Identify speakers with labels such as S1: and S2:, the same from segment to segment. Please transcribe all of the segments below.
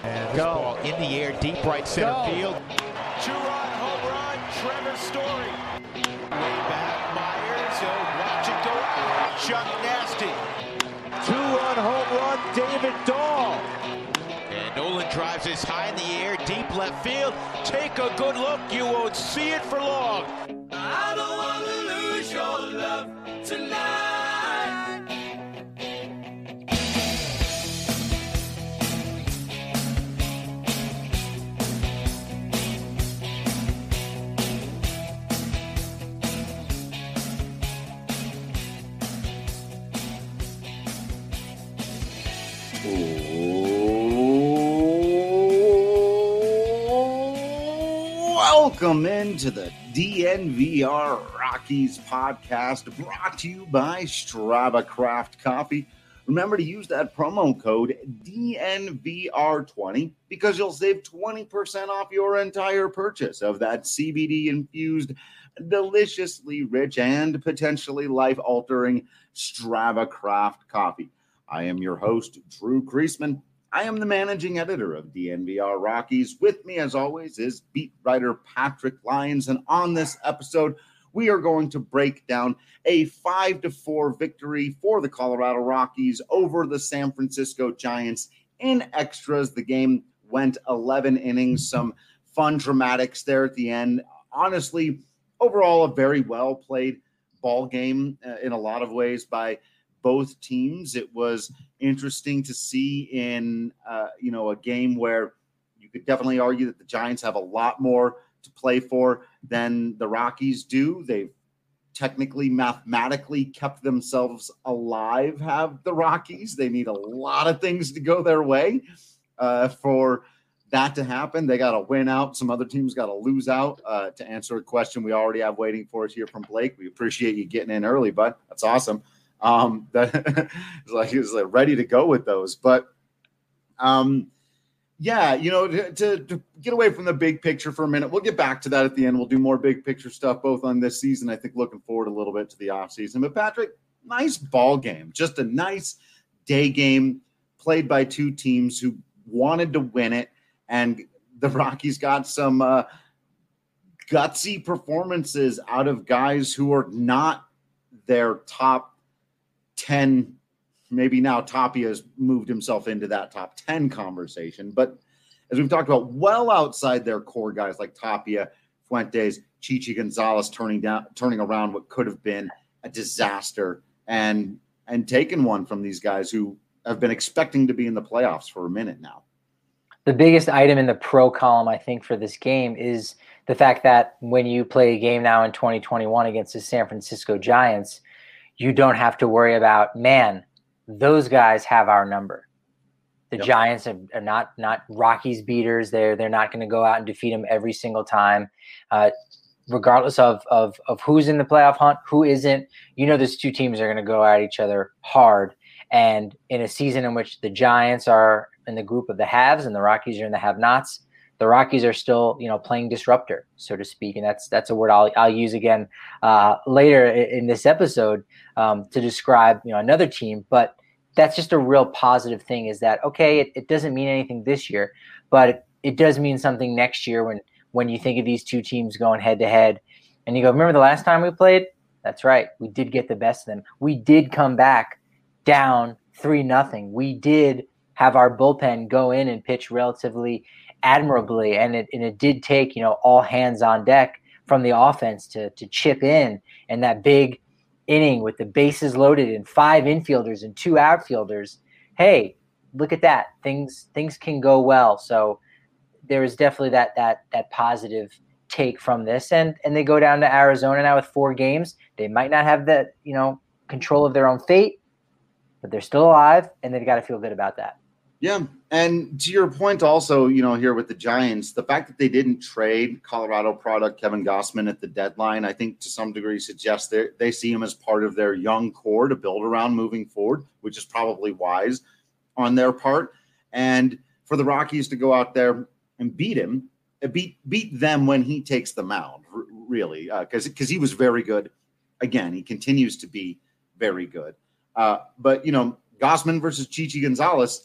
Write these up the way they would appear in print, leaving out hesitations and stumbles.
S1: And this ball in the air, deep right center field.
S2: Two-run home run, Trevor Story. Way back, Myers. Watch it go out. Chuck Nasty.
S3: Two-run home run, David Dahl.
S1: And Nolan drives this high in the air, deep left field. Take a good look. You won't see it for long.
S4: I don't want to lose your love tonight.
S5: Welcome into the DNVR Rockies podcast, brought to you by Strava Craft Coffee. Remember to use that promo code DNVR20 because you'll save 20% off your entire purchase of that CBD-infused, deliciously rich, and potentially life-altering Strava Craft Coffee. I am your host, Drew Kreisman. I am the managing editor of DNVR Rockies. With me, as always, is beat writer Patrick Lyons. And on this episode, we are going to break down a 5-4 victory for the Colorado Rockies over the San Francisco Giants in extras. The game went 11 innings, some fun dramatics there at the end. Honestly, overall, a very well-played ball game in a lot of ways by both teams. It was interesting to see in a game where you could definitely argue that the Giants have a lot more to play for than the Rockies do. They've technically, mathematically kept themselves alive, have the Rockies. They need a lot of things to go their way for that to happen. They got to win out. Some other teams got to lose out. To answer a question we already have waiting for us here from Blake, we appreciate you getting in early, bud. That's awesome. That he was ready to go with those, but to get away from the big picture for a minute, we'll get back to that at the end. We'll do more big picture stuff both on this season. I think looking forward a little bit to the off season. But Patrick, nice ball game, just a nice day game played by two teams who wanted to win it, and the Rockies got some gutsy performances out of guys who are not their top 10, maybe now Tapia has moved himself into that top 10 conversation. But as we've talked about, well outside their core guys like Tapia, Fuentes, Chichi Gonzalez turning around what could have been a disaster and taking one from these guys who have been expecting to be in the playoffs for a minute now.
S6: The biggest item in the pro column, I think, for this game is the fact that when you play a game now in 2021 against the San Francisco Giants, you don't have to worry about, man, those guys have our number. The Giants are not Rockies beaters. They're not going to go out and defeat them every single time, regardless of who's in the playoff hunt, who isn't. Those two teams are going to go at each other hard. And in a season in which the Giants are in the group of the haves and the Rockies are in the have-nots, the Rockies are still, playing disruptor, so to speak, and that's a word I'll use again later in this episode to describe another team. But that's just a real positive thing. Is that okay? It doesn't mean anything this year, but it does mean something next year when you think of these two teams going head to head, and you go, remember the last time we played? That's right, we did get the best of them. We did come back down 3-0. We did have our bullpen go in and pitch relatively admirably, and it did take all hands on deck from the offense to chip in that big inning with the bases loaded and 5 infielders and 2 outfielders. Hey, look at that, things can go well. So there is definitely that positive take from this, and they go down to Arizona now with 4 games. They might not have the control of their own fate, but they're still alive, and they've got to feel good about that.
S5: Yeah, and to your point also, here with the Giants, the fact that they didn't trade Colorado product Kevin Gausman at the deadline, I think to some degree suggests they see him as part of their young core to build around moving forward, which is probably wise on their part. And for the Rockies to go out there and beat him, beat them when he takes the mound, really, because he was very good. Again, he continues to be very good. But Gausman versus Chichi Gonzalez,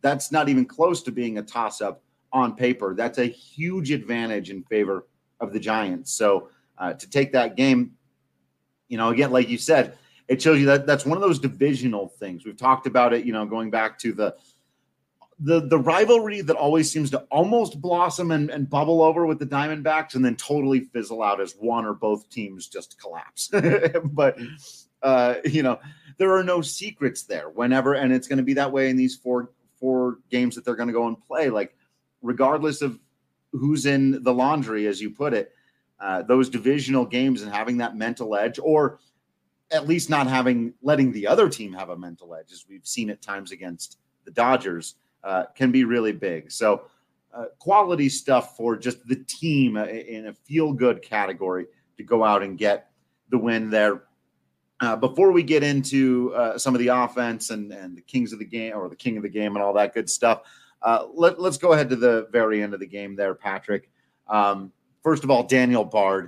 S5: that's not even close to being a toss-up on paper. That's a huge advantage in favor of the Giants. So to take that game, again, like you said, it shows you that that's one of those divisional things. We've talked about it, going back to the rivalry that always seems to almost blossom and bubble over with the Diamondbacks and then totally fizzle out as one or both teams just collapse. But, there are no secrets there whenever, and it's going to be that way in these four games that they're going to go and play. Like, regardless of who's in the laundry, as you put it, those divisional games and having that mental edge, or at least not letting the other team have a mental edge, as we've seen at times against the Dodgers, can be really big. So quality stuff for just the team in a feel-good category to go out and get the win there. Before we get into some of the offense and the kings of the game, or the king of the game and all that good stuff, let's go ahead to the very end of the game there, Patrick. First of all, Daniel Bard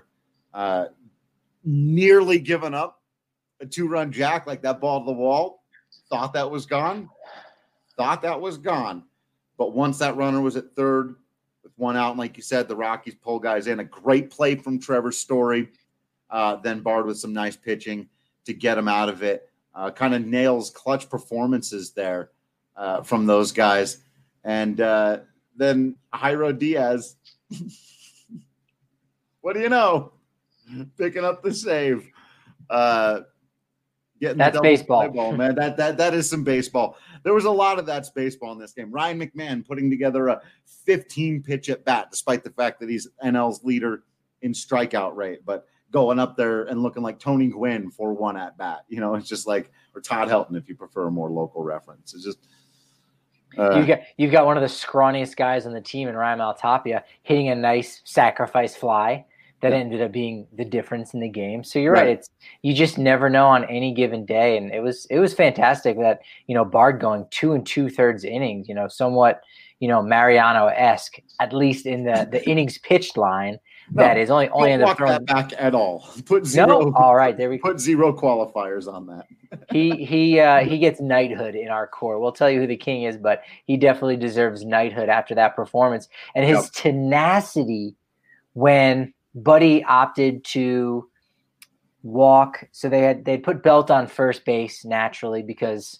S5: nearly given up a 2-run jack, like that ball to the wall. Thought that was gone. But once that runner was at third with one out, and like you said, the Rockies pull guys in. A great play from Trevor Story. Then Bard with some nice pitching to get him out of it. Kind of nails clutch performances there from those guys. And then Jairo Diaz, what do you know? Picking up the save.
S6: That's baseball.
S5: Ball, man. That is some baseball. There was a lot of that's baseball in this game. Ryan McMahon putting together a 15-pitch at bat, despite the fact that he's NL's leader in strikeout rate, but going up there and looking like Tony Gwynn for one at bat. It's just like, or Todd Helton, if you prefer a more local reference. It's just
S6: you've got one of the scrawniest guys on the team in Ryan Maltapia hitting a nice sacrifice fly that ended up being the difference in the game. So you're right. You just never know on any given day. And it was fantastic that, Bard going 2 2/3 innings, somewhat, Mariano-esque, at least in the innings pitched line. That is only ended up throwing
S5: that back at all. Put zero.
S6: No, all right, there we go.
S5: Put zero qualifiers on that.
S6: He gets knighthood in our core. We'll tell you who the king is, but he definitely deserves knighthood after that performance and his tenacity when Buddy opted to walk. So they put Belt on first base naturally because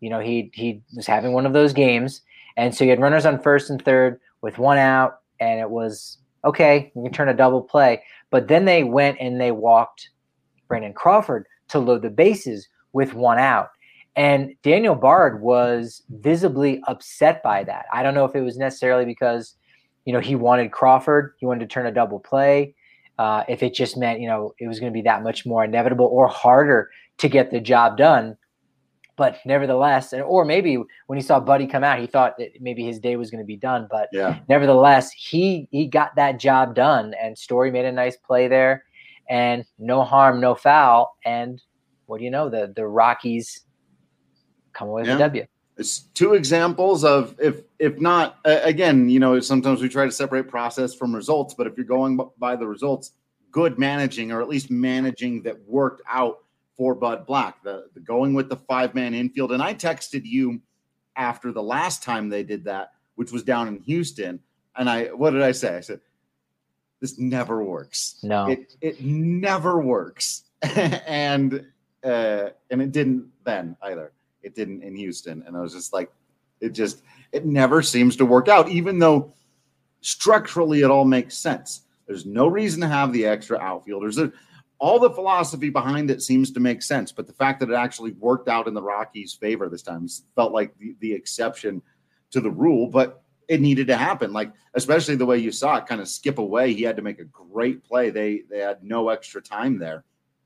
S6: he was having one of those games, and so you had runners on first and third with one out, and it was okay. You can turn a double play, but then they went and they walked Brandon Crawford to load the bases with one out, and Daniel Bard was visibly upset by that. I don't know if it was necessarily because he wanted Crawford, he wanted to turn a double play. If it just meant, it was going to be that much more inevitable or harder to get the job done. But nevertheless, or maybe when he saw Buddy come out, he thought that maybe his day was going to be done. But nevertheless, he got that job done, and Story made a nice play there, and no harm, no foul. And what do you know? The Rockies come away with a W.
S5: It's two examples of if not, again, sometimes we try to separate process from results, but if you're going by the results, good managing, or at least managing that worked out for Bud Black, the going with the 5-man infield. And I texted you after the last time they did that, which was down in Houston. And what did I say? I said, this never works.
S6: No,
S5: it never works. and it didn't then either. It didn't in Houston. And I was just like, it never seems to work out, even though structurally it all makes sense. There's no reason to have the extra outfielders. All the philosophy behind it seems to make sense, but the fact that it actually worked out in the Rockies' favor this time felt like the exception to the rule, but it needed to happen. Like, especially the way you saw it kind of skip away. He had to make a great play. They had no extra time there.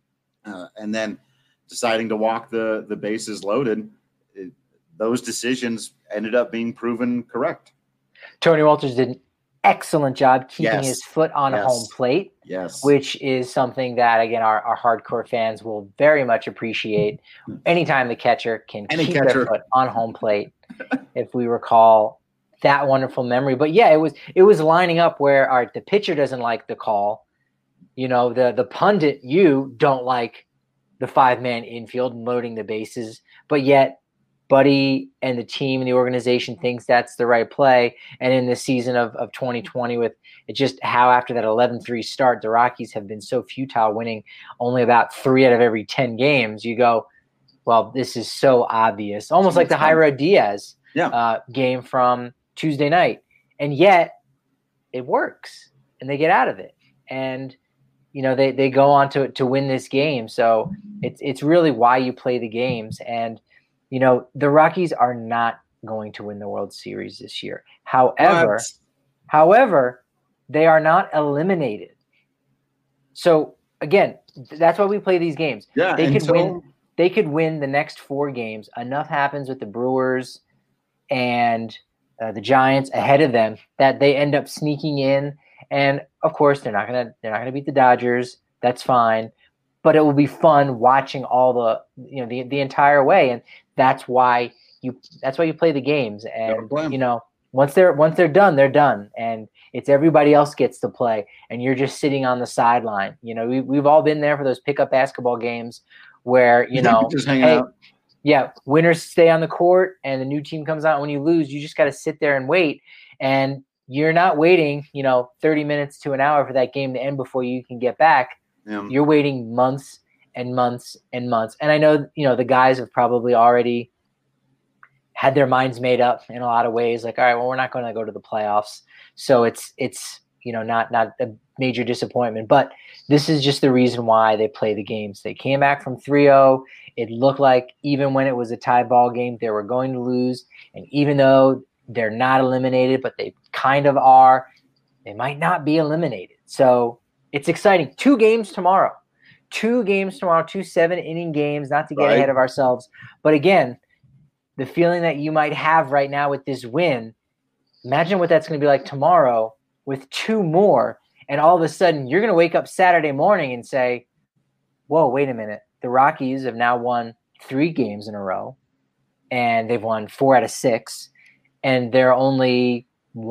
S5: And then deciding to walk the bases loaded, those decisions ended up being proven correct.
S6: Tony Walters did an excellent job keeping his foot on home plate, which is something that, again, our hardcore fans will very much appreciate. Anytime the catcher can keep their foot on home plate, if we recall that wonderful memory. But yeah, it was lining up where the pitcher doesn't like the call. The pundit, you don't like the 5-man infield and loading the bases, but yet Buddy and the team and the organization thinks that's the right play. And in the season of 2020, with it just how after that 11-3 start, the Rockies have been so futile, winning only about 3 out of every 10 games. You go, well, this is so obvious, almost like the Jairo Diaz game from Tuesday night. And yet it works and they get out of it. And, you know, they go on to win this game. So it's really why you play the games. And, you know, the Rockies are not going to win the World Series this year. However, they are not eliminated. So again, that's why we play these games.
S5: Yeah,
S6: They could win the next 4 games. Enough happens with the Brewers and the Giants ahead of them that they end up sneaking in. And of course, they're not gonna beat the Dodgers. That's fine. But it will be fun watching all the entire way, and that's why you play the games. And you know, once they're done, they're done, and it's everybody else gets to play, and you're just sitting on the sideline. You know, we've all been there for those pickup basketball games where you know,
S5: just hanging out.
S6: Yeah, winners stay on the court, and the new team comes out. When you lose, you just got to sit there and wait, and you're not waiting, you know, 30 minutes to an hour for that game to end before you can get back. Yeah. You're waiting months and months and months. And I know, you know, the guys have probably already had their minds made up in a lot of ways. Like, all right, well, we're not going to go to the playoffs. So it's, you know, not a major disappointment, but this is just the reason why they play the games. They came back from 3-0. It looked like even when it was a tie ball game, they were going to lose. And even though they're not eliminated, but they kind of are, they might not be eliminated. So it's exciting. 2 games tomorrow. 2 7-inning games, not to get ahead of ourselves. But again, the feeling that you might have right now with this win, imagine what that's going to be like tomorrow with 2 more. And all of a sudden, you're going to wake up Saturday morning and say, whoa, wait a minute. The Rockies have now won 3 games in a row, and they've won 4 out of 6, and they're only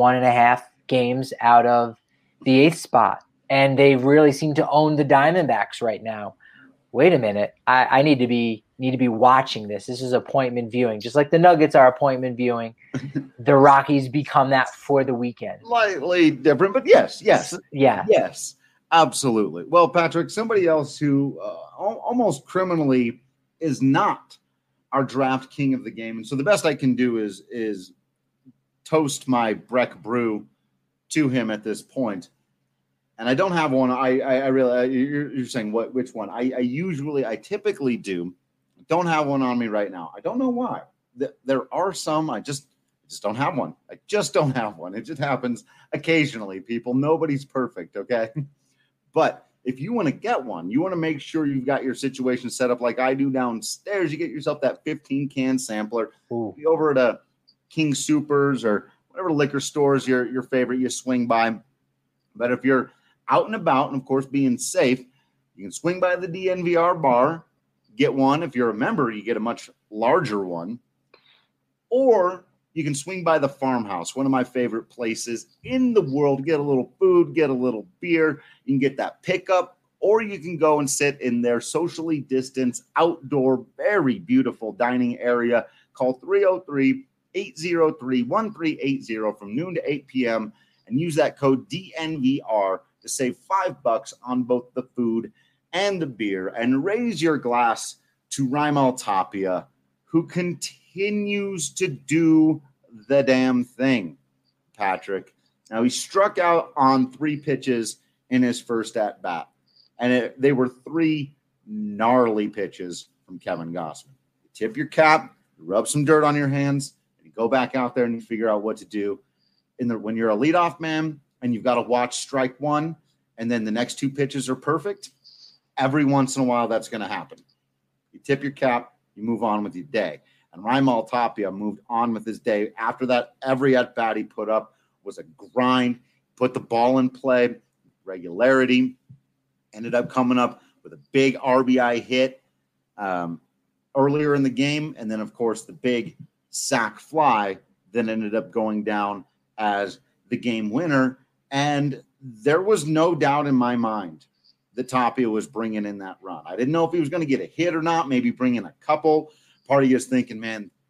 S6: 1.5 games out of the 8th spot. And they really seem to own the Diamondbacks right now. Wait a minute. I need to be watching this. This is appointment viewing. Just like the Nuggets are appointment viewing, the Rockies become that for the weekend.
S5: Slightly different, but yes.
S6: Yeah.
S5: Yes, absolutely. Well, Patrick, somebody else who almost criminally is not our draft king of the game. And so the best I can do is toast my Breck brew to him at this point. And I don't have one. I really, you're saying which one? I typically do. Don't have one on me right now. I don't know why. There are some. I just don't have one. I just don't have one. It just happens occasionally, people. Nobody's perfect, okay? But if you want to get one, you want to make sure you've got your situation set up like I do downstairs. You get yourself that 15-can sampler. Be over at a King Soopers or whatever liquor stores your favorite you swing by. But if you're out and about, and of course being safe, you can swing by the DNVR bar, get one. If you're a member, you get a much larger one. Or you can swing by the Farmhouse, one of my favorite places in the world. Get a little food, get a little beer. You can get that pickup, or you can go and sit in their socially distanced, outdoor, very beautiful dining area. Call 303-803-1380 from noon to 8 p.m. and use that code DNVR to save $5 on both the food and the beer, and raise your glass to Raimel Tapia, who continues to do the damn thing, Patrick. Now, he struck out on 3 pitches in his first at-bat, and they were 3 gnarly pitches from Kevin Gausman. You tip your cap, you rub some dirt on your hands, and you go back out there and you figure out what to do. When you're a leadoff man and you've got to watch strike 1 and then the next 2 pitches are perfect, every once in a while that's going to happen. You tip your cap, you move on with your day. And Raimel Tapia moved on with his day. After that, every at-bat he put up was a grind, put the ball in play, regularity, ended up coming up with a big RBI hit earlier in the game, and then, of course, the big sac fly that ended up going down as the game winner. And there was no doubt in my mind that Tapia was bringing in that run. I didn't know if he was going to get a hit or not, maybe bring in a couple. Part of you is thinking, man,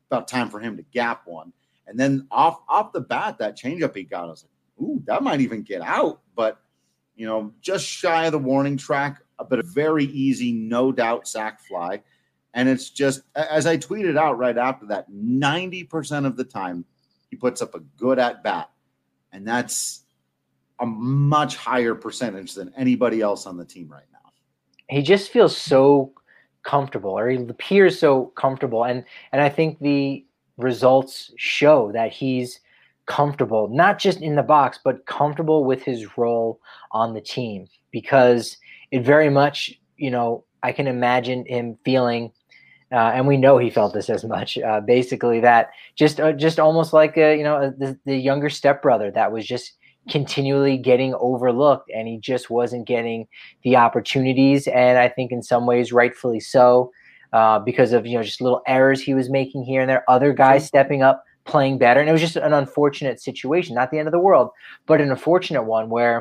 S5: about time for him to gap one. And then off the bat, that changeup he got, I was like, ooh, that might even get out. But, just shy of the warning track, but a very easy, no doubt sac fly. And it's just, as I tweeted out right after that, 90% of the time he puts up a good at bat. And that's a much higher percentage than anybody else on the team right now.
S6: He just feels so comfortable, or he appears so comfortable. And I think the results show that he's comfortable, not just in the box, but comfortable with his role on the team, because it very much, I can imagine him feeling, and we know he felt this as much, basically that just almost like the younger stepbrother that was just continually getting overlooked, and he just wasn't getting the opportunities. And I think in some ways, rightfully so, because of, just little errors he was making here and there, other guys stepping up, playing better. And it was just an unfortunate situation, not the end of the world, but an unfortunate one where,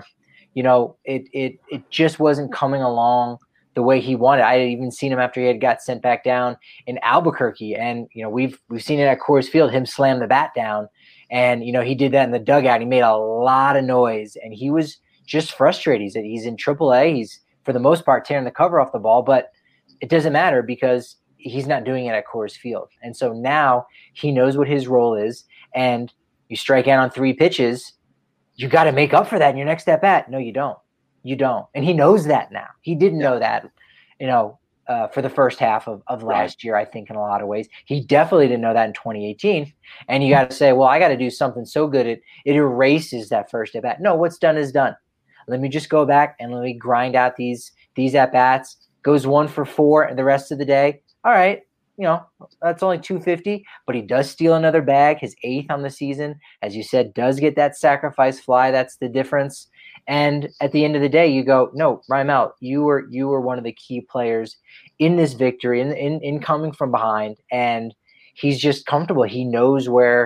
S6: it just wasn't coming along the way he wanted. I had even seen him after he had got sent back down in Albuquerque. And, we've seen it at Coors Field, him slam the bat down. And, he did that in the dugout. He made a lot of noise, and he was just frustrated. He's in AAA. He's, for the most part, tearing the cover off the ball, but it doesn't matter because he's not doing it at Coors Field. And so now he knows what his role is, and you strike out on 3 pitches, you got to make up for that in your next at bat. No, you don't. You don't. And he knows that now. He didn't know that, for the first half of last year, I think, in a lot of ways. He definitely didn't know that in 2018. And you got to say, well, I got to do something so good it erases that first at bat. No, what's done is done. Let me just go back and let me grind out these at bats. Goes 1 for 4 and the rest of the day. All right, that's only 250, but he does steal another bag, his 8th on the season. As you said, does get that sacrifice fly. That's the difference. And at the end of the day, you go, no, Raimel, you were one of the key players in this victory, in coming from behind, and he's just comfortable. He knows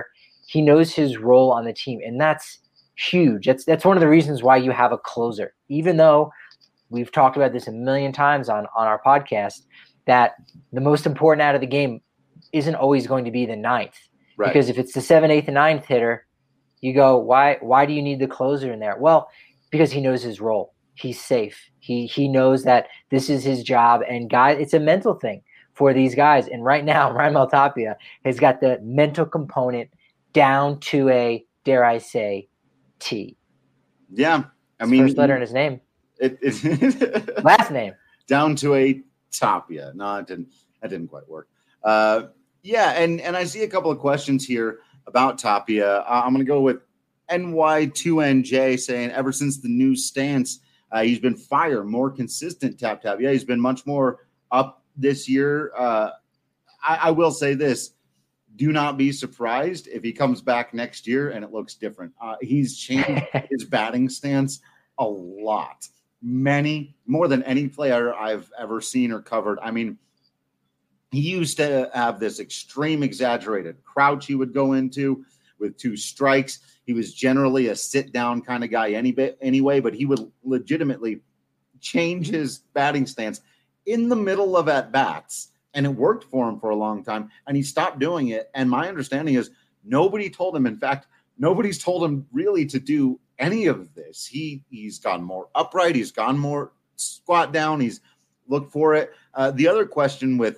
S6: his role on the team, and that's huge. That's one of the reasons why you have a closer. Even though we've talked about this a million times on our podcast, that the most important out of the game isn't always going to be the 9th. Right. Because if it's the 7th, 8th, and 9th hitter, you go, why do you need the closer in there? Well, because he knows his role. He's safe. He knows that this is his job. And guys, it's a mental thing for these guys. And right now, Raimel Tapia has got the mental component down to a, dare I say, T.
S5: Yeah.
S6: First letter in his name. Last name.
S5: Down to a Tapia. No, that didn't quite work. And I see a couple of questions here about Tapia. I'm going to go with NY2NJ saying, ever since the new stance, he's been more consistent tap. Yeah, he's been much more up this year. I will say this. Do not be surprised if he comes back next year and it looks different. He's changed his batting stance a lot. More than any player I've ever seen or covered. I mean, he used to have this extreme exaggerated crouch he would go into with 2 strikes. He was generally a sit-down kind of guy anyway, but he would legitimately change his batting stance in the middle of at-bats, and it worked for him for a long time, and he stopped doing it. And my understanding is nobody told him. In fact, nobody's told him really to do any of this. He's gone more upright. He's gone more squat down. He's looked for it. The other question with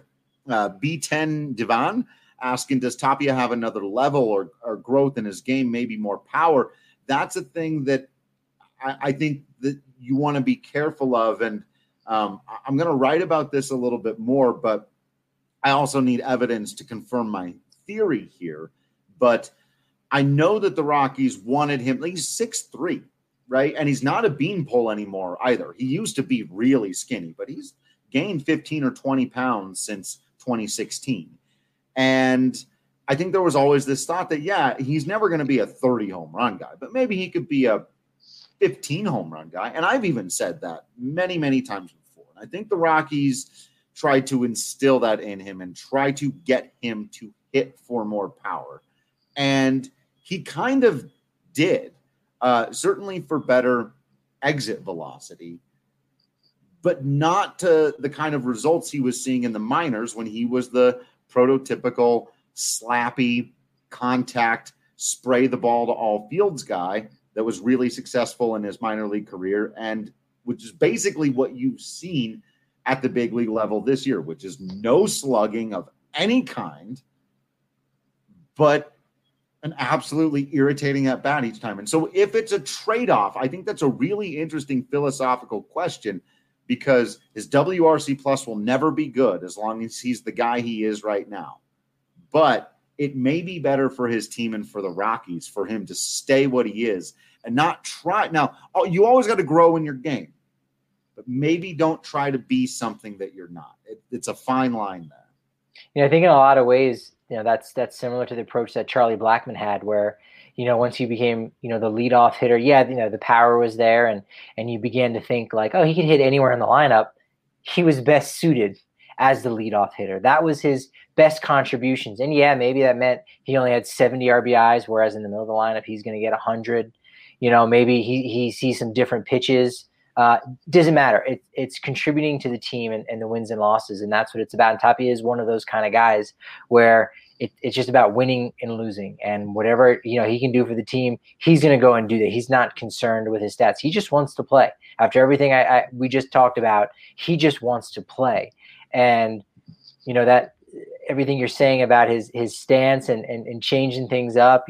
S5: B10 Divan asking, does Tapia have another level or growth in his game, maybe more power? That's a thing that I think that you want to be careful of. And I'm going to write about this a little bit more, but I also need evidence to confirm my theory here. But I know that the Rockies wanted him. He's 6'3", right? And he's not a beanpole anymore either. He used to be really skinny, but he's gained 15 or 20 pounds since 2016. And I think there was always this thought that, yeah, he's never going to be a 30 home run guy, but maybe he could be a 15 home run guy. And I've even said that many, many times before. And I think the Rockies tried to instill that in him and try to get him to hit for more power. And he kind of did, certainly for better exit velocity, but not to the kind of results he was seeing in the minors when he was the prototypical slappy, contact, spray the ball to all fields guy that was really successful in his minor league career, and which is basically what you've seen at the big league level this year, which is no slugging of any kind, but an absolutely irritating at bat each time. And so if it's a trade-off, I think that's a really interesting philosophical question, because his WRC plus will never be good as long as he's the guy he is right now. But it may be better for his team and for the Rockies for him to stay what he is and not try. Now, you always got to grow in your game, but maybe don't try to be something that you're not. It's a fine line there.
S6: I think in a lot of ways, that's similar to the approach that Charlie Blackmon had, where, once he became, the leadoff hitter, the power was there, and you began to think like, oh, he could hit anywhere in the lineup. He was best suited as the leadoff hitter. That was his best contributions. And maybe that meant he only had 70 RBIs, whereas in the middle of the lineup, he's going to get 100. Maybe he sees some different pitches. Doesn't matter. It's contributing to the team and the wins and losses, and that's what it's about. And Tapia is one of those kind of guys where it's just about winning and losing, and whatever he can do for the team, he's going to go and do that. He's not concerned with his stats. He just wants to play. After everything we just talked about, he just wants to play. And that everything you're saying about his stance and changing things up,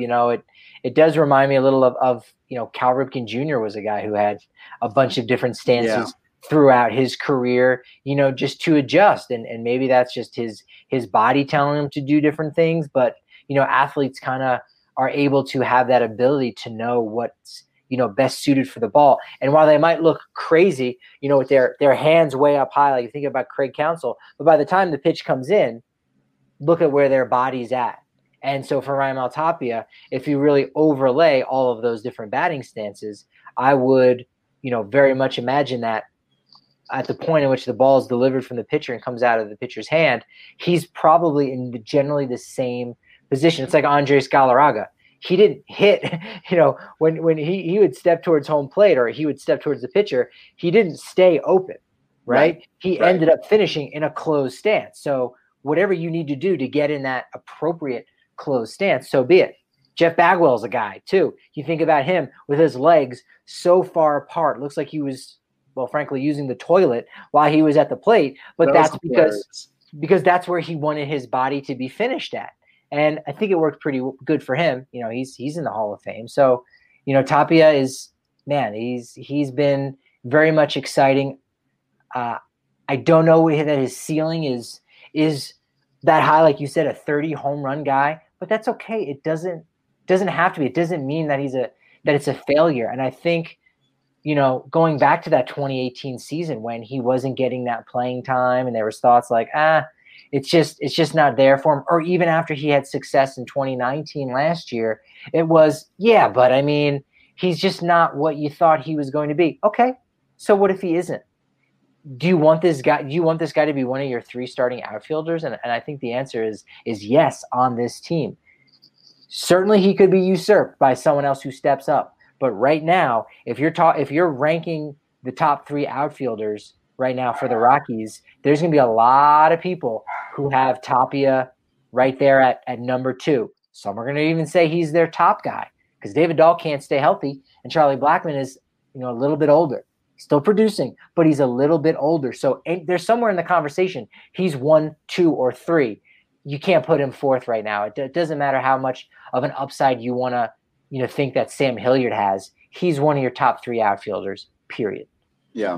S6: it does remind me a little of Cal Ripken Jr. was a guy who had a bunch of different stances throughout his career, just to adjust. And maybe that's just his body telling him to do different things. But, athletes kind of are able to have that ability to know what's, best suited for the ball. And while they might look crazy, with their hands way up high, like you think about Craig Counsell, but by the time the pitch comes in, look at where their body's at. And so for Raimel Tapia, if you really overlay all of those different batting stances, I would, very much imagine that at the point in which the ball is delivered from the pitcher and comes out of the pitcher's hand, he's probably in generally the same position. It's like Andres Galarraga. He didn't hit, when he would step towards home plate or he would step towards the pitcher, he didn't stay open, right? He ended up finishing in a closed stance. So whatever you need to do to get in that appropriate closed stance, so be it. Jeff Bagwell's a guy too. You think about him with his legs so far apart. Looks like he was, well, frankly, using the toilet while he was at the plate. But that's because that's where he wanted his body to be finished at. And I think it worked pretty good for him. He's in the Hall of Fame. So, Tapia is, man, he's been very much exciting. I don't know that his ceiling is that high, like you said, a 30 home run guy, but that's okay. It doesn't have to be. It doesn't mean that that it's a failure. And I think, going back to that 2018 season when he wasn't getting that playing time and there was thoughts like, it's just not there for him. Or even after he had success in 2019 last year, it was, but I mean, he's just not what you thought he was going to be. Okay. So what if he isn't? Do you want this guy to be one of your 3 starting outfielders? And I think the answer is yes on this team. Certainly he could be usurped by someone else who steps up. But right now, if you're ranking the top 3 outfielders right now for the Rockies, there's going to be a lot of people who have Tapia right there at number 2. Some are going to even say he's their top guy because David Dahl can't stay healthy, and Charlie Blackmon is a little bit older. Still producing, but he's a little bit older. So there's somewhere in the conversation he's 1, 2, or 3. You can't put him 4th right now. It doesn't matter how much of an upside you want to think that Sam Hilliard has. He's one of your top 3 outfielders, period.
S5: Yeah.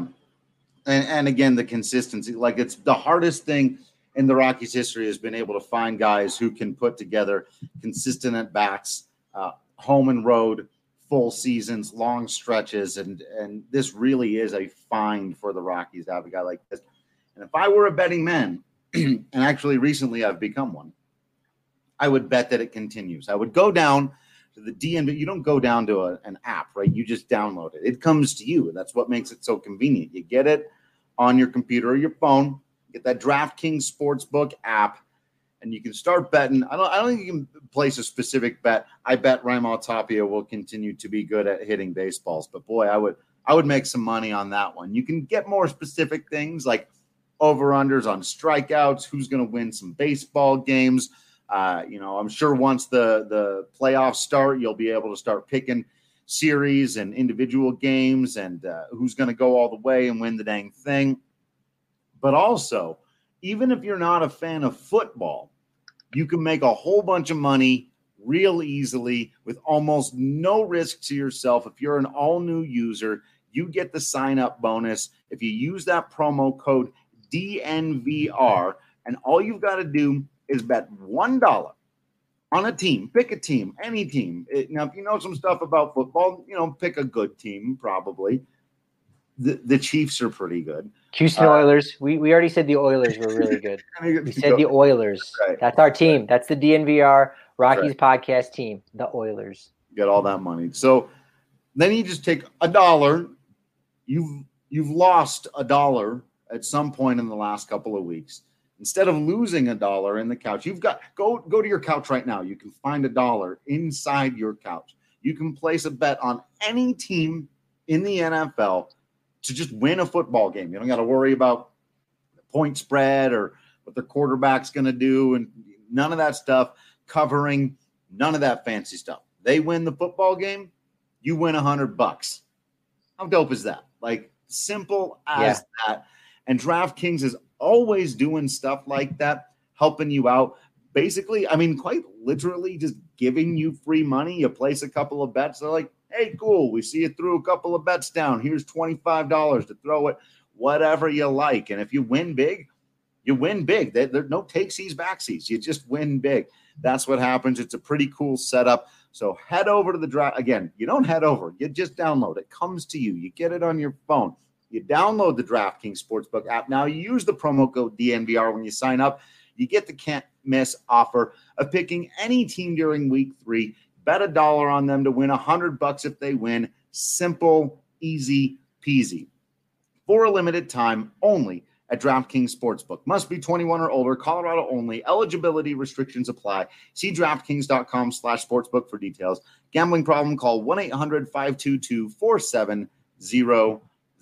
S5: And again, the consistency, like it's the hardest thing in the Rockies history has been able to find guys who can put together consistent at bats, home and road, full seasons, long stretches. And this really is a find for the Rockies to have a guy like this. And if I were a betting man, and actually recently I've become one, I would bet that it continues. I would go down to the DMV. You don't go down to an app, right? You just download it. It comes to you. That's what makes it so convenient. You get it on your computer or your phone, get that DraftKings Sportsbook app, and you can start betting. I don't think you can place a specific bet. I bet Raimel Tapia will continue to be good at hitting baseballs. But boy, I would make some money on that one. You can get more specific things like over-unders on strikeouts, who's going to win some baseball games, I'm sure once the playoffs start, you'll be able to start picking series and individual games and who's going to go all the way and win the dang thing. But also, even if you're not a fan of football, you can make a whole bunch of money real easily with almost no risk to yourself. If you're an all-new user, you get the sign-up bonus if you use that promo code DNVR, and all you've got to do is bet $1 on a team. Pick a team, any team. Now, if you know some stuff about football, pick a good team, probably. The Chiefs are pretty good.
S6: Houston Oilers. We already said the Oilers were really good. We said the Oilers. Right. That's our team. Right. That's the DNVR Rockies podcast team, the Oilers.
S5: Get all that money. So then you just take $1. You've lost $1 at some point in the last couple of weeks. Instead of losing $1 in the couch, you've got go to your couch right now. You can find $1 inside your couch. You can place a bet on any team in the NFL to just win a football game. You don't got to worry about the point spread or what their quarterback's going to do, and none of that stuff, covering, none of that fancy stuff. They win the football game, you win $100. How dope is that? Like, simple as that. And DraftKings is always doing stuff like that, helping you out. Basically, quite literally just giving you free money. You place a couple of bets. They're like, hey, cool, we see you threw a couple of bets down. Here's $25 to throw it, whatever you like. And if you win big, you win big. There's no takesies, backsies. You just win big. That's what happens. It's a pretty cool setup. So head over to the draft. Again, you don't head over. You just download. It comes to you. You get it on your phone. You download the DraftKings Sportsbook app. Now, you use the promo code DNVR when you sign up. You get the can't-miss offer of picking any team during Week 3. Bet $1 on them to win $100 if they win. Simple, easy peasy. For a limited time only at DraftKings Sportsbook. Must be 21 or older. Colorado only. Eligibility restrictions apply. See DraftKings.com/sportsbook for details. Gambling problem? Call 1-800-522-4700.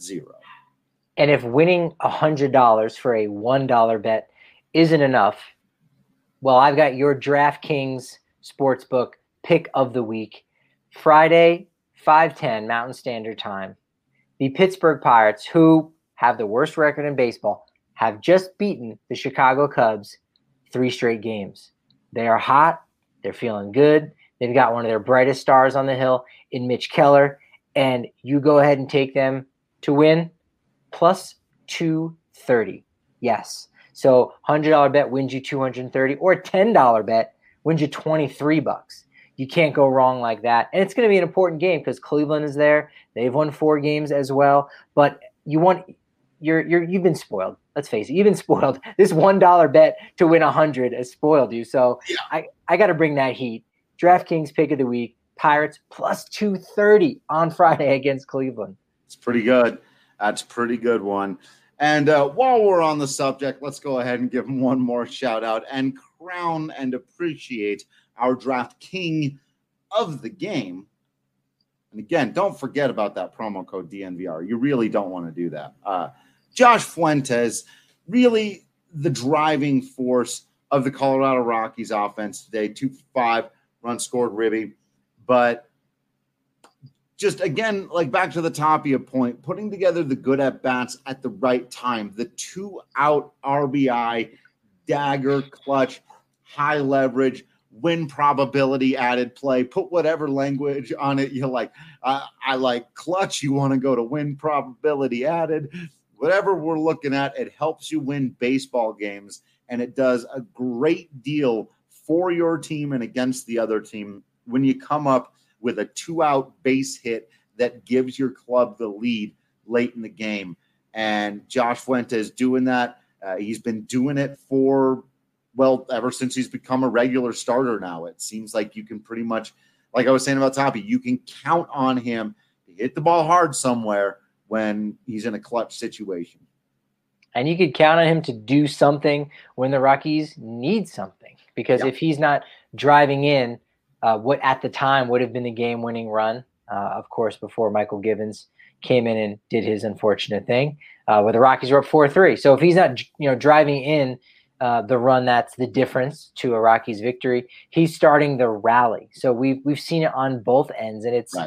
S6: And if winning $100 for a $1 bet isn't enough, well, I've got your DraftKings Sportsbook pick of the week. Friday, 5:10 Mountain Standard Time. The Pittsburgh Pirates, who have the worst record in baseball, have just beaten the Chicago Cubs 3 straight games. They are hot. They're feeling good. They've got one of their brightest stars on the hill in Mitch Keller. And you go ahead and take them to win plus 230. Yes. So $100 bet wins you 230, or a $10 bet wins you $23. You can't go wrong like that. And it's going to be an important game because Cleveland is there. They've won 4 games as well. But you've been spoiled. Let's face it. You've been spoiled. This $1 bet to win 100 has spoiled you. So yeah. I got to bring that heat. DraftKings pick of the week. Pirates plus 230 on Friday against Cleveland.
S5: It's pretty good. That's a pretty good one. And while we're on the subject, let's go ahead and give them one more shout out and crown and appreciate our Draft King of the game. And again, don't forget about that promo code DNVR. You really don't want to do that. Josh Fuentes, really the driving force of the Colorado Rockies offense today. 2 for 5, runs scored, ribby. But just, again, like back to the Tapia point, putting together the good at-bats at the right time, the 2-out RBI, dagger, clutch, high leverage, win probability added play, put whatever language on it you like. I like clutch. You want to go to win probability added. Whatever we're looking at, it helps you win baseball games, and it does a great deal for your team and against the other team when you come up with a 2-out base hit that gives your club the lead late in the game. And Josh Fuentes doing that. He's been doing it for, ever since he's become a regular starter now. It seems like you can pretty much, like I was saying about Toppy, you can count on him to hit the ball hard somewhere when he's in a clutch situation. And
S6: you could count on him to do something when the Rockies need something. Because if he's not driving in what at the time would have been the game-winning run, of course, before Michael Givens came in and did his unfortunate thing, where the Rockies were up 4-3. So if he's not, driving in the run that's the difference to a Rockies victory. He's starting the rally. So we've seen it on both ends, and it's
S5: right.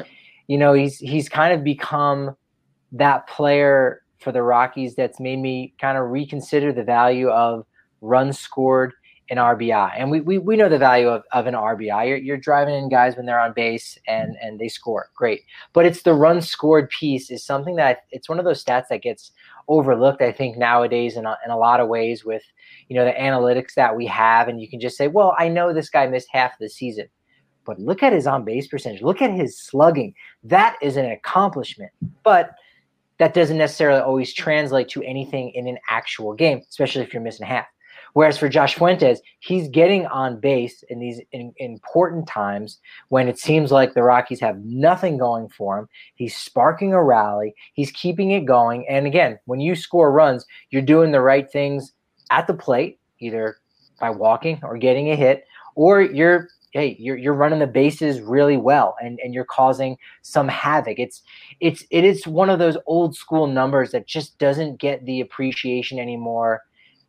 S6: He's kind of become that player for the Rockies that's made me kind of reconsider the value of runs scored and RBI. And we know the value of an RBI. You're driving in guys when they're on base and they score. Great. But it's the runs scored piece is something that it's one of those stats that gets overlooked, I think, nowadays in a lot of ways with, the analytics that we have. And you can just say, well, I know this guy missed half of the season. But look at his on-base percentage. Look at his slugging. That is an accomplishment. But that doesn't necessarily always translate to anything in an actual game, especially if you're missing half. Whereas for Josh Fuentes, he's getting on base in these important times when it seems like the Rockies have nothing going for him. He's sparking a rally. He's keeping it going. And again, when you score runs, you're doing the right things at the plate, either by walking or getting a hit, or you're running the bases really well and you're causing some havoc. It is one of those old school numbers that just doesn't get the appreciation anymore,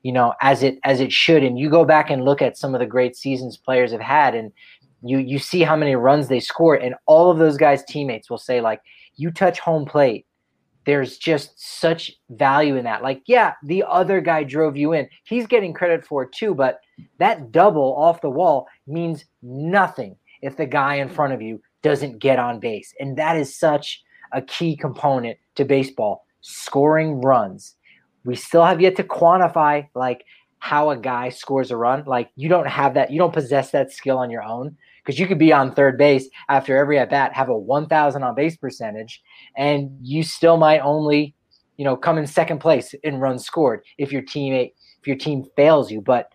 S6: as it should. And you go back and look at some of the great seasons players have had, and you see how many runs they score, and all of those guys' teammates will say, like, you touch home plate, there's just such value in that. Like, yeah, the other guy drove you in. He's getting credit for it too, but that double off the wall means nothing if the guy in front of you doesn't get on base. And that is such a key component to baseball, scoring runs. We still have yet to quantify like how a guy scores a run. Like, you don't have that. You don't possess that skill on your own, because you could be on third base after every at bat, have a 1,000 on base percentage, and you still might only, come in second place in runs scored if your team fails you. But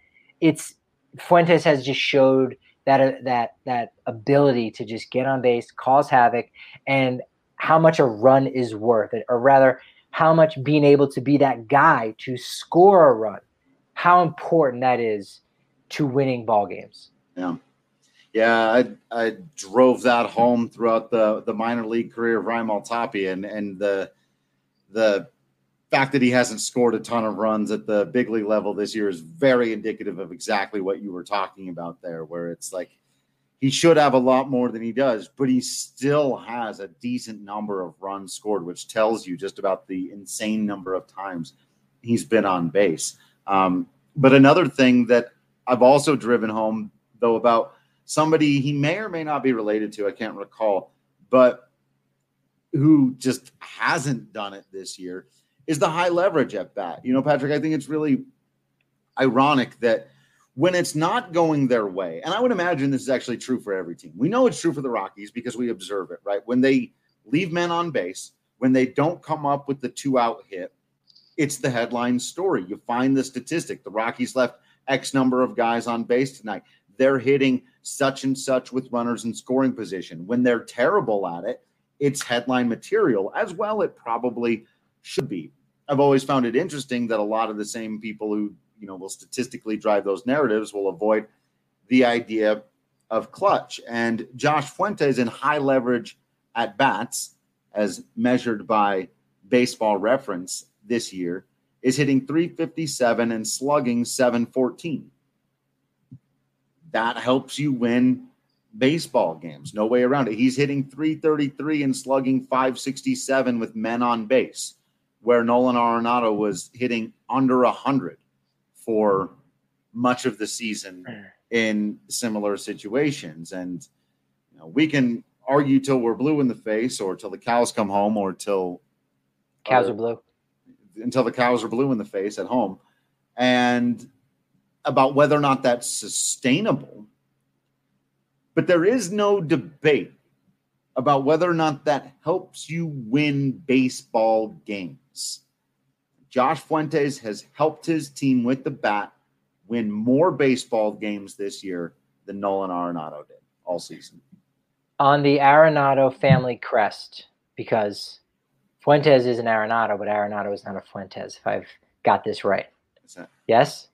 S6: Fuentes has just showed that ability to just get on base, cause havoc, and how much a run is worth it, or rather, how much being able to be that guy to score a run, how important that is to winning ball games.
S5: Yeah, I drove that home throughout the minor league career of Ryan Maltapia, and the fact that he hasn't scored a ton of runs at the big league level this year is very indicative of exactly what you were talking about there, where it's like he should have a lot more than he does, but he still has a decent number of runs scored, which tells you just about the insane number of times he's been on base. But another thing that I've also driven home, though, about somebody he may or may not be related to, I can't recall, but who just hasn't done it this year, is the high leverage at bat. Patrick, I think it's really ironic that when it's not going their way, and I would imagine this is actually true for every team. We know it's true for the Rockies because we observe it, right? When they leave men on base, when they don't come up with the 2-out hit, it's the headline story. You find the statistic. The Rockies left X number of guys on base tonight. They're hitting such and such with runners in scoring position. When they're terrible at it, it's headline material as well. It probably should be. I've always found it interesting that a lot of the same people who will statistically drive those narratives will avoid the idea of clutch. And Josh Fuentes in high leverage at bats, as measured by Baseball Reference this year, is hitting .357 and slugging .714. That helps you win baseball games. No way around it. He's hitting .333 and slugging .567 with men on base, where Nolan Arenado was hitting under 100 for much of the season in similar situations. And we can argue till we're blue in the face, or till the cows come home, or till
S6: cows are blue,
S5: until the cows are blue in the face at home, and about whether or not that's sustainable. But there is no debate about whether or not that helps you win baseball games. Josh Fuentes has helped his team with the bat win more baseball games this year than Nolan Arenado did all season.
S6: On the Arenado family crest, because Fuentes is an Arenado, but Arenado is not a Fuentes, if I've got this right. Yes?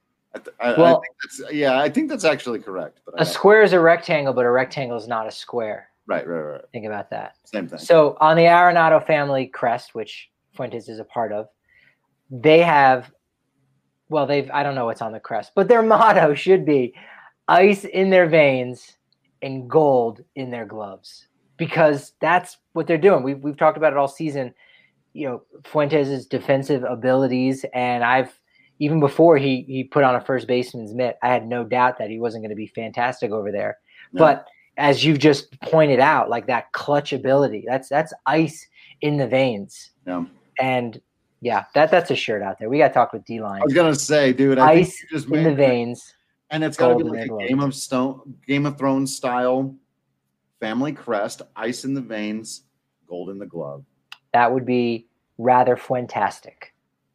S5: I think that's actually correct. But
S6: a square is a rectangle, but a rectangle is not a square.
S5: Right.
S6: Think about that.
S5: Same thing.
S6: So on the Arenado family crest, which Fuentes is a part of, they have well, I don't know what's on the crest, but their motto should be ice in their veins and gold in their gloves, because that's what they're doing. We've talked about it all season. Fuentes' defensive abilities, and even before he put on a first baseman's mitt, I had no doubt that he wasn't going to be fantastic over there. No. But as you've just pointed out, like that clutch ability, that's ice in the veins.
S5: Yeah.
S6: And yeah, that's a shirt out there. We got to talk with D-Line.
S5: I was gonna say, dude,
S6: ice think just in the veins,
S5: and it's got to be like a Game of Thrones style family crest, ice in the veins, gold in the glove.
S6: That would be rather fantastic.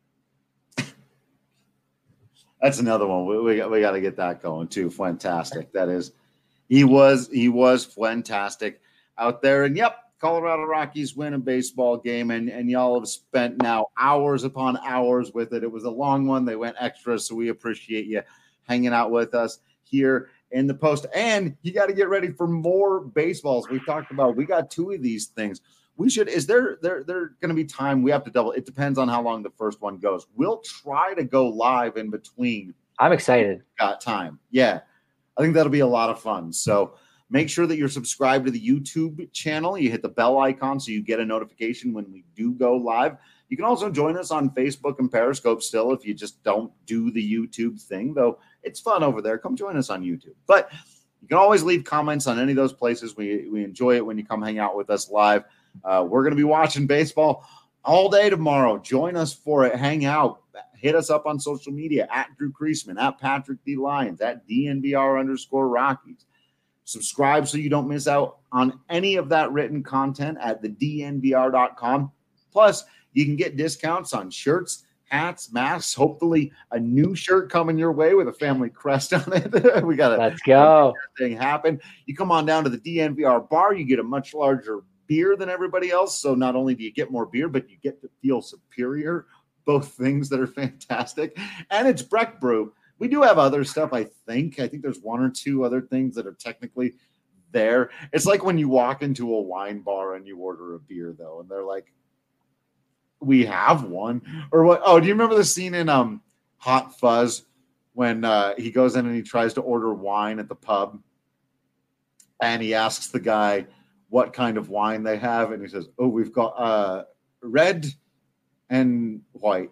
S5: That's another one. We got to get that going too. Fantastic. That is, he was fantastic out there. And yep, Colorado Rockies win a baseball game, and y'all have spent now hours upon hours with it. It was a long one. They went extra, so we appreciate you hanging out with us here in the post. And you got to get ready for more baseballs. We talked about, we got 2 of these things. Is there going to be time? We have to double. It depends on how long the first one goes. We'll try to go live in between.
S6: I'm excited.
S5: Got time. Yeah. I think that'll be a lot of fun. So make sure that you're subscribed to the YouTube channel. You hit the bell icon so you get a notification when we do go live. You can also join us on Facebook and Periscope still if you just don't do the YouTube thing, though it's fun over there. Come join us on YouTube. But you can always leave comments on any of those places. We enjoy it when you come hang out with us live. We're going to be watching baseball all day tomorrow. Join us for it. Hang out. Hit us up on social media at Drew Creasman, at Patrick D. Lyons, at DNVR_Rockies. Subscribe so you don't miss out on any of that written content at thednvr.com. Plus, you can get discounts on shirts, hats, masks, hopefully a new shirt coming your way with a family crest on it. We got
S6: Let's go.
S5: Thing happen. You come on down to the DNVR bar, you get a much larger beer than everybody else. So not only do you get more beer, but you get to feel superior. Both things that are fantastic. And it's Breck Brew. We do have other stuff, I think. I think there's 1 or 2 other things that are technically there. It's like when you walk into a wine bar and you order a beer, though, and they're like, we have one. Or what? Oh, do you remember the scene in Hot Fuzz when he goes in and he tries to order wine at the pub? And he asks the guy what kind of wine they have. And he says, oh, we've got red and white.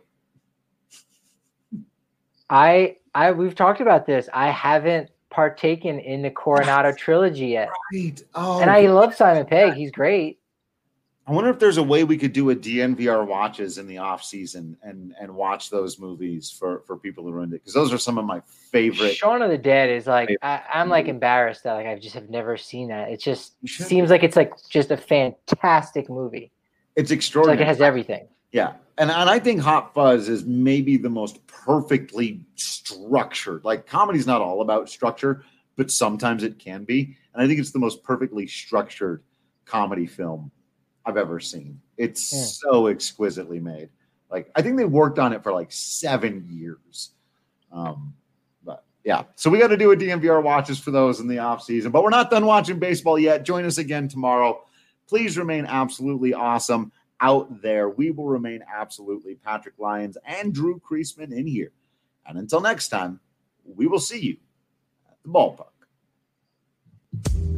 S6: We've talked about this. I haven't partaken in the Coronado trilogy yet.
S5: Right. Oh,
S6: and I love Simon Pegg. He's great.
S5: I wonder if there's a way we could do a DNVR watches in the off season and watch those movies for people who are into it, because those are some of my favorite.
S6: Shaun of the Dead is like, I'm like embarrassed that like I just have never seen that. It just seems like it's like just a fantastic movie.
S5: It's extraordinary.
S6: It's like it has everything.
S5: Yeah. And I think Hot Fuzz is maybe the most perfectly structured. Like, comedy's not all about structure, but sometimes it can be. And I think it's the most perfectly structured comedy film I've ever seen. It's so exquisitely made. Like, I think they worked on it for like 7 years. But yeah, so we got to do a DNVR watches for those in the off season, but we're not done watching baseball yet. Join us again tomorrow. Please remain absolutely awesome out there. We will remain absolutely Patrick Lyons and Drew Creasman in here. And until next time, we will see you at the ballpark.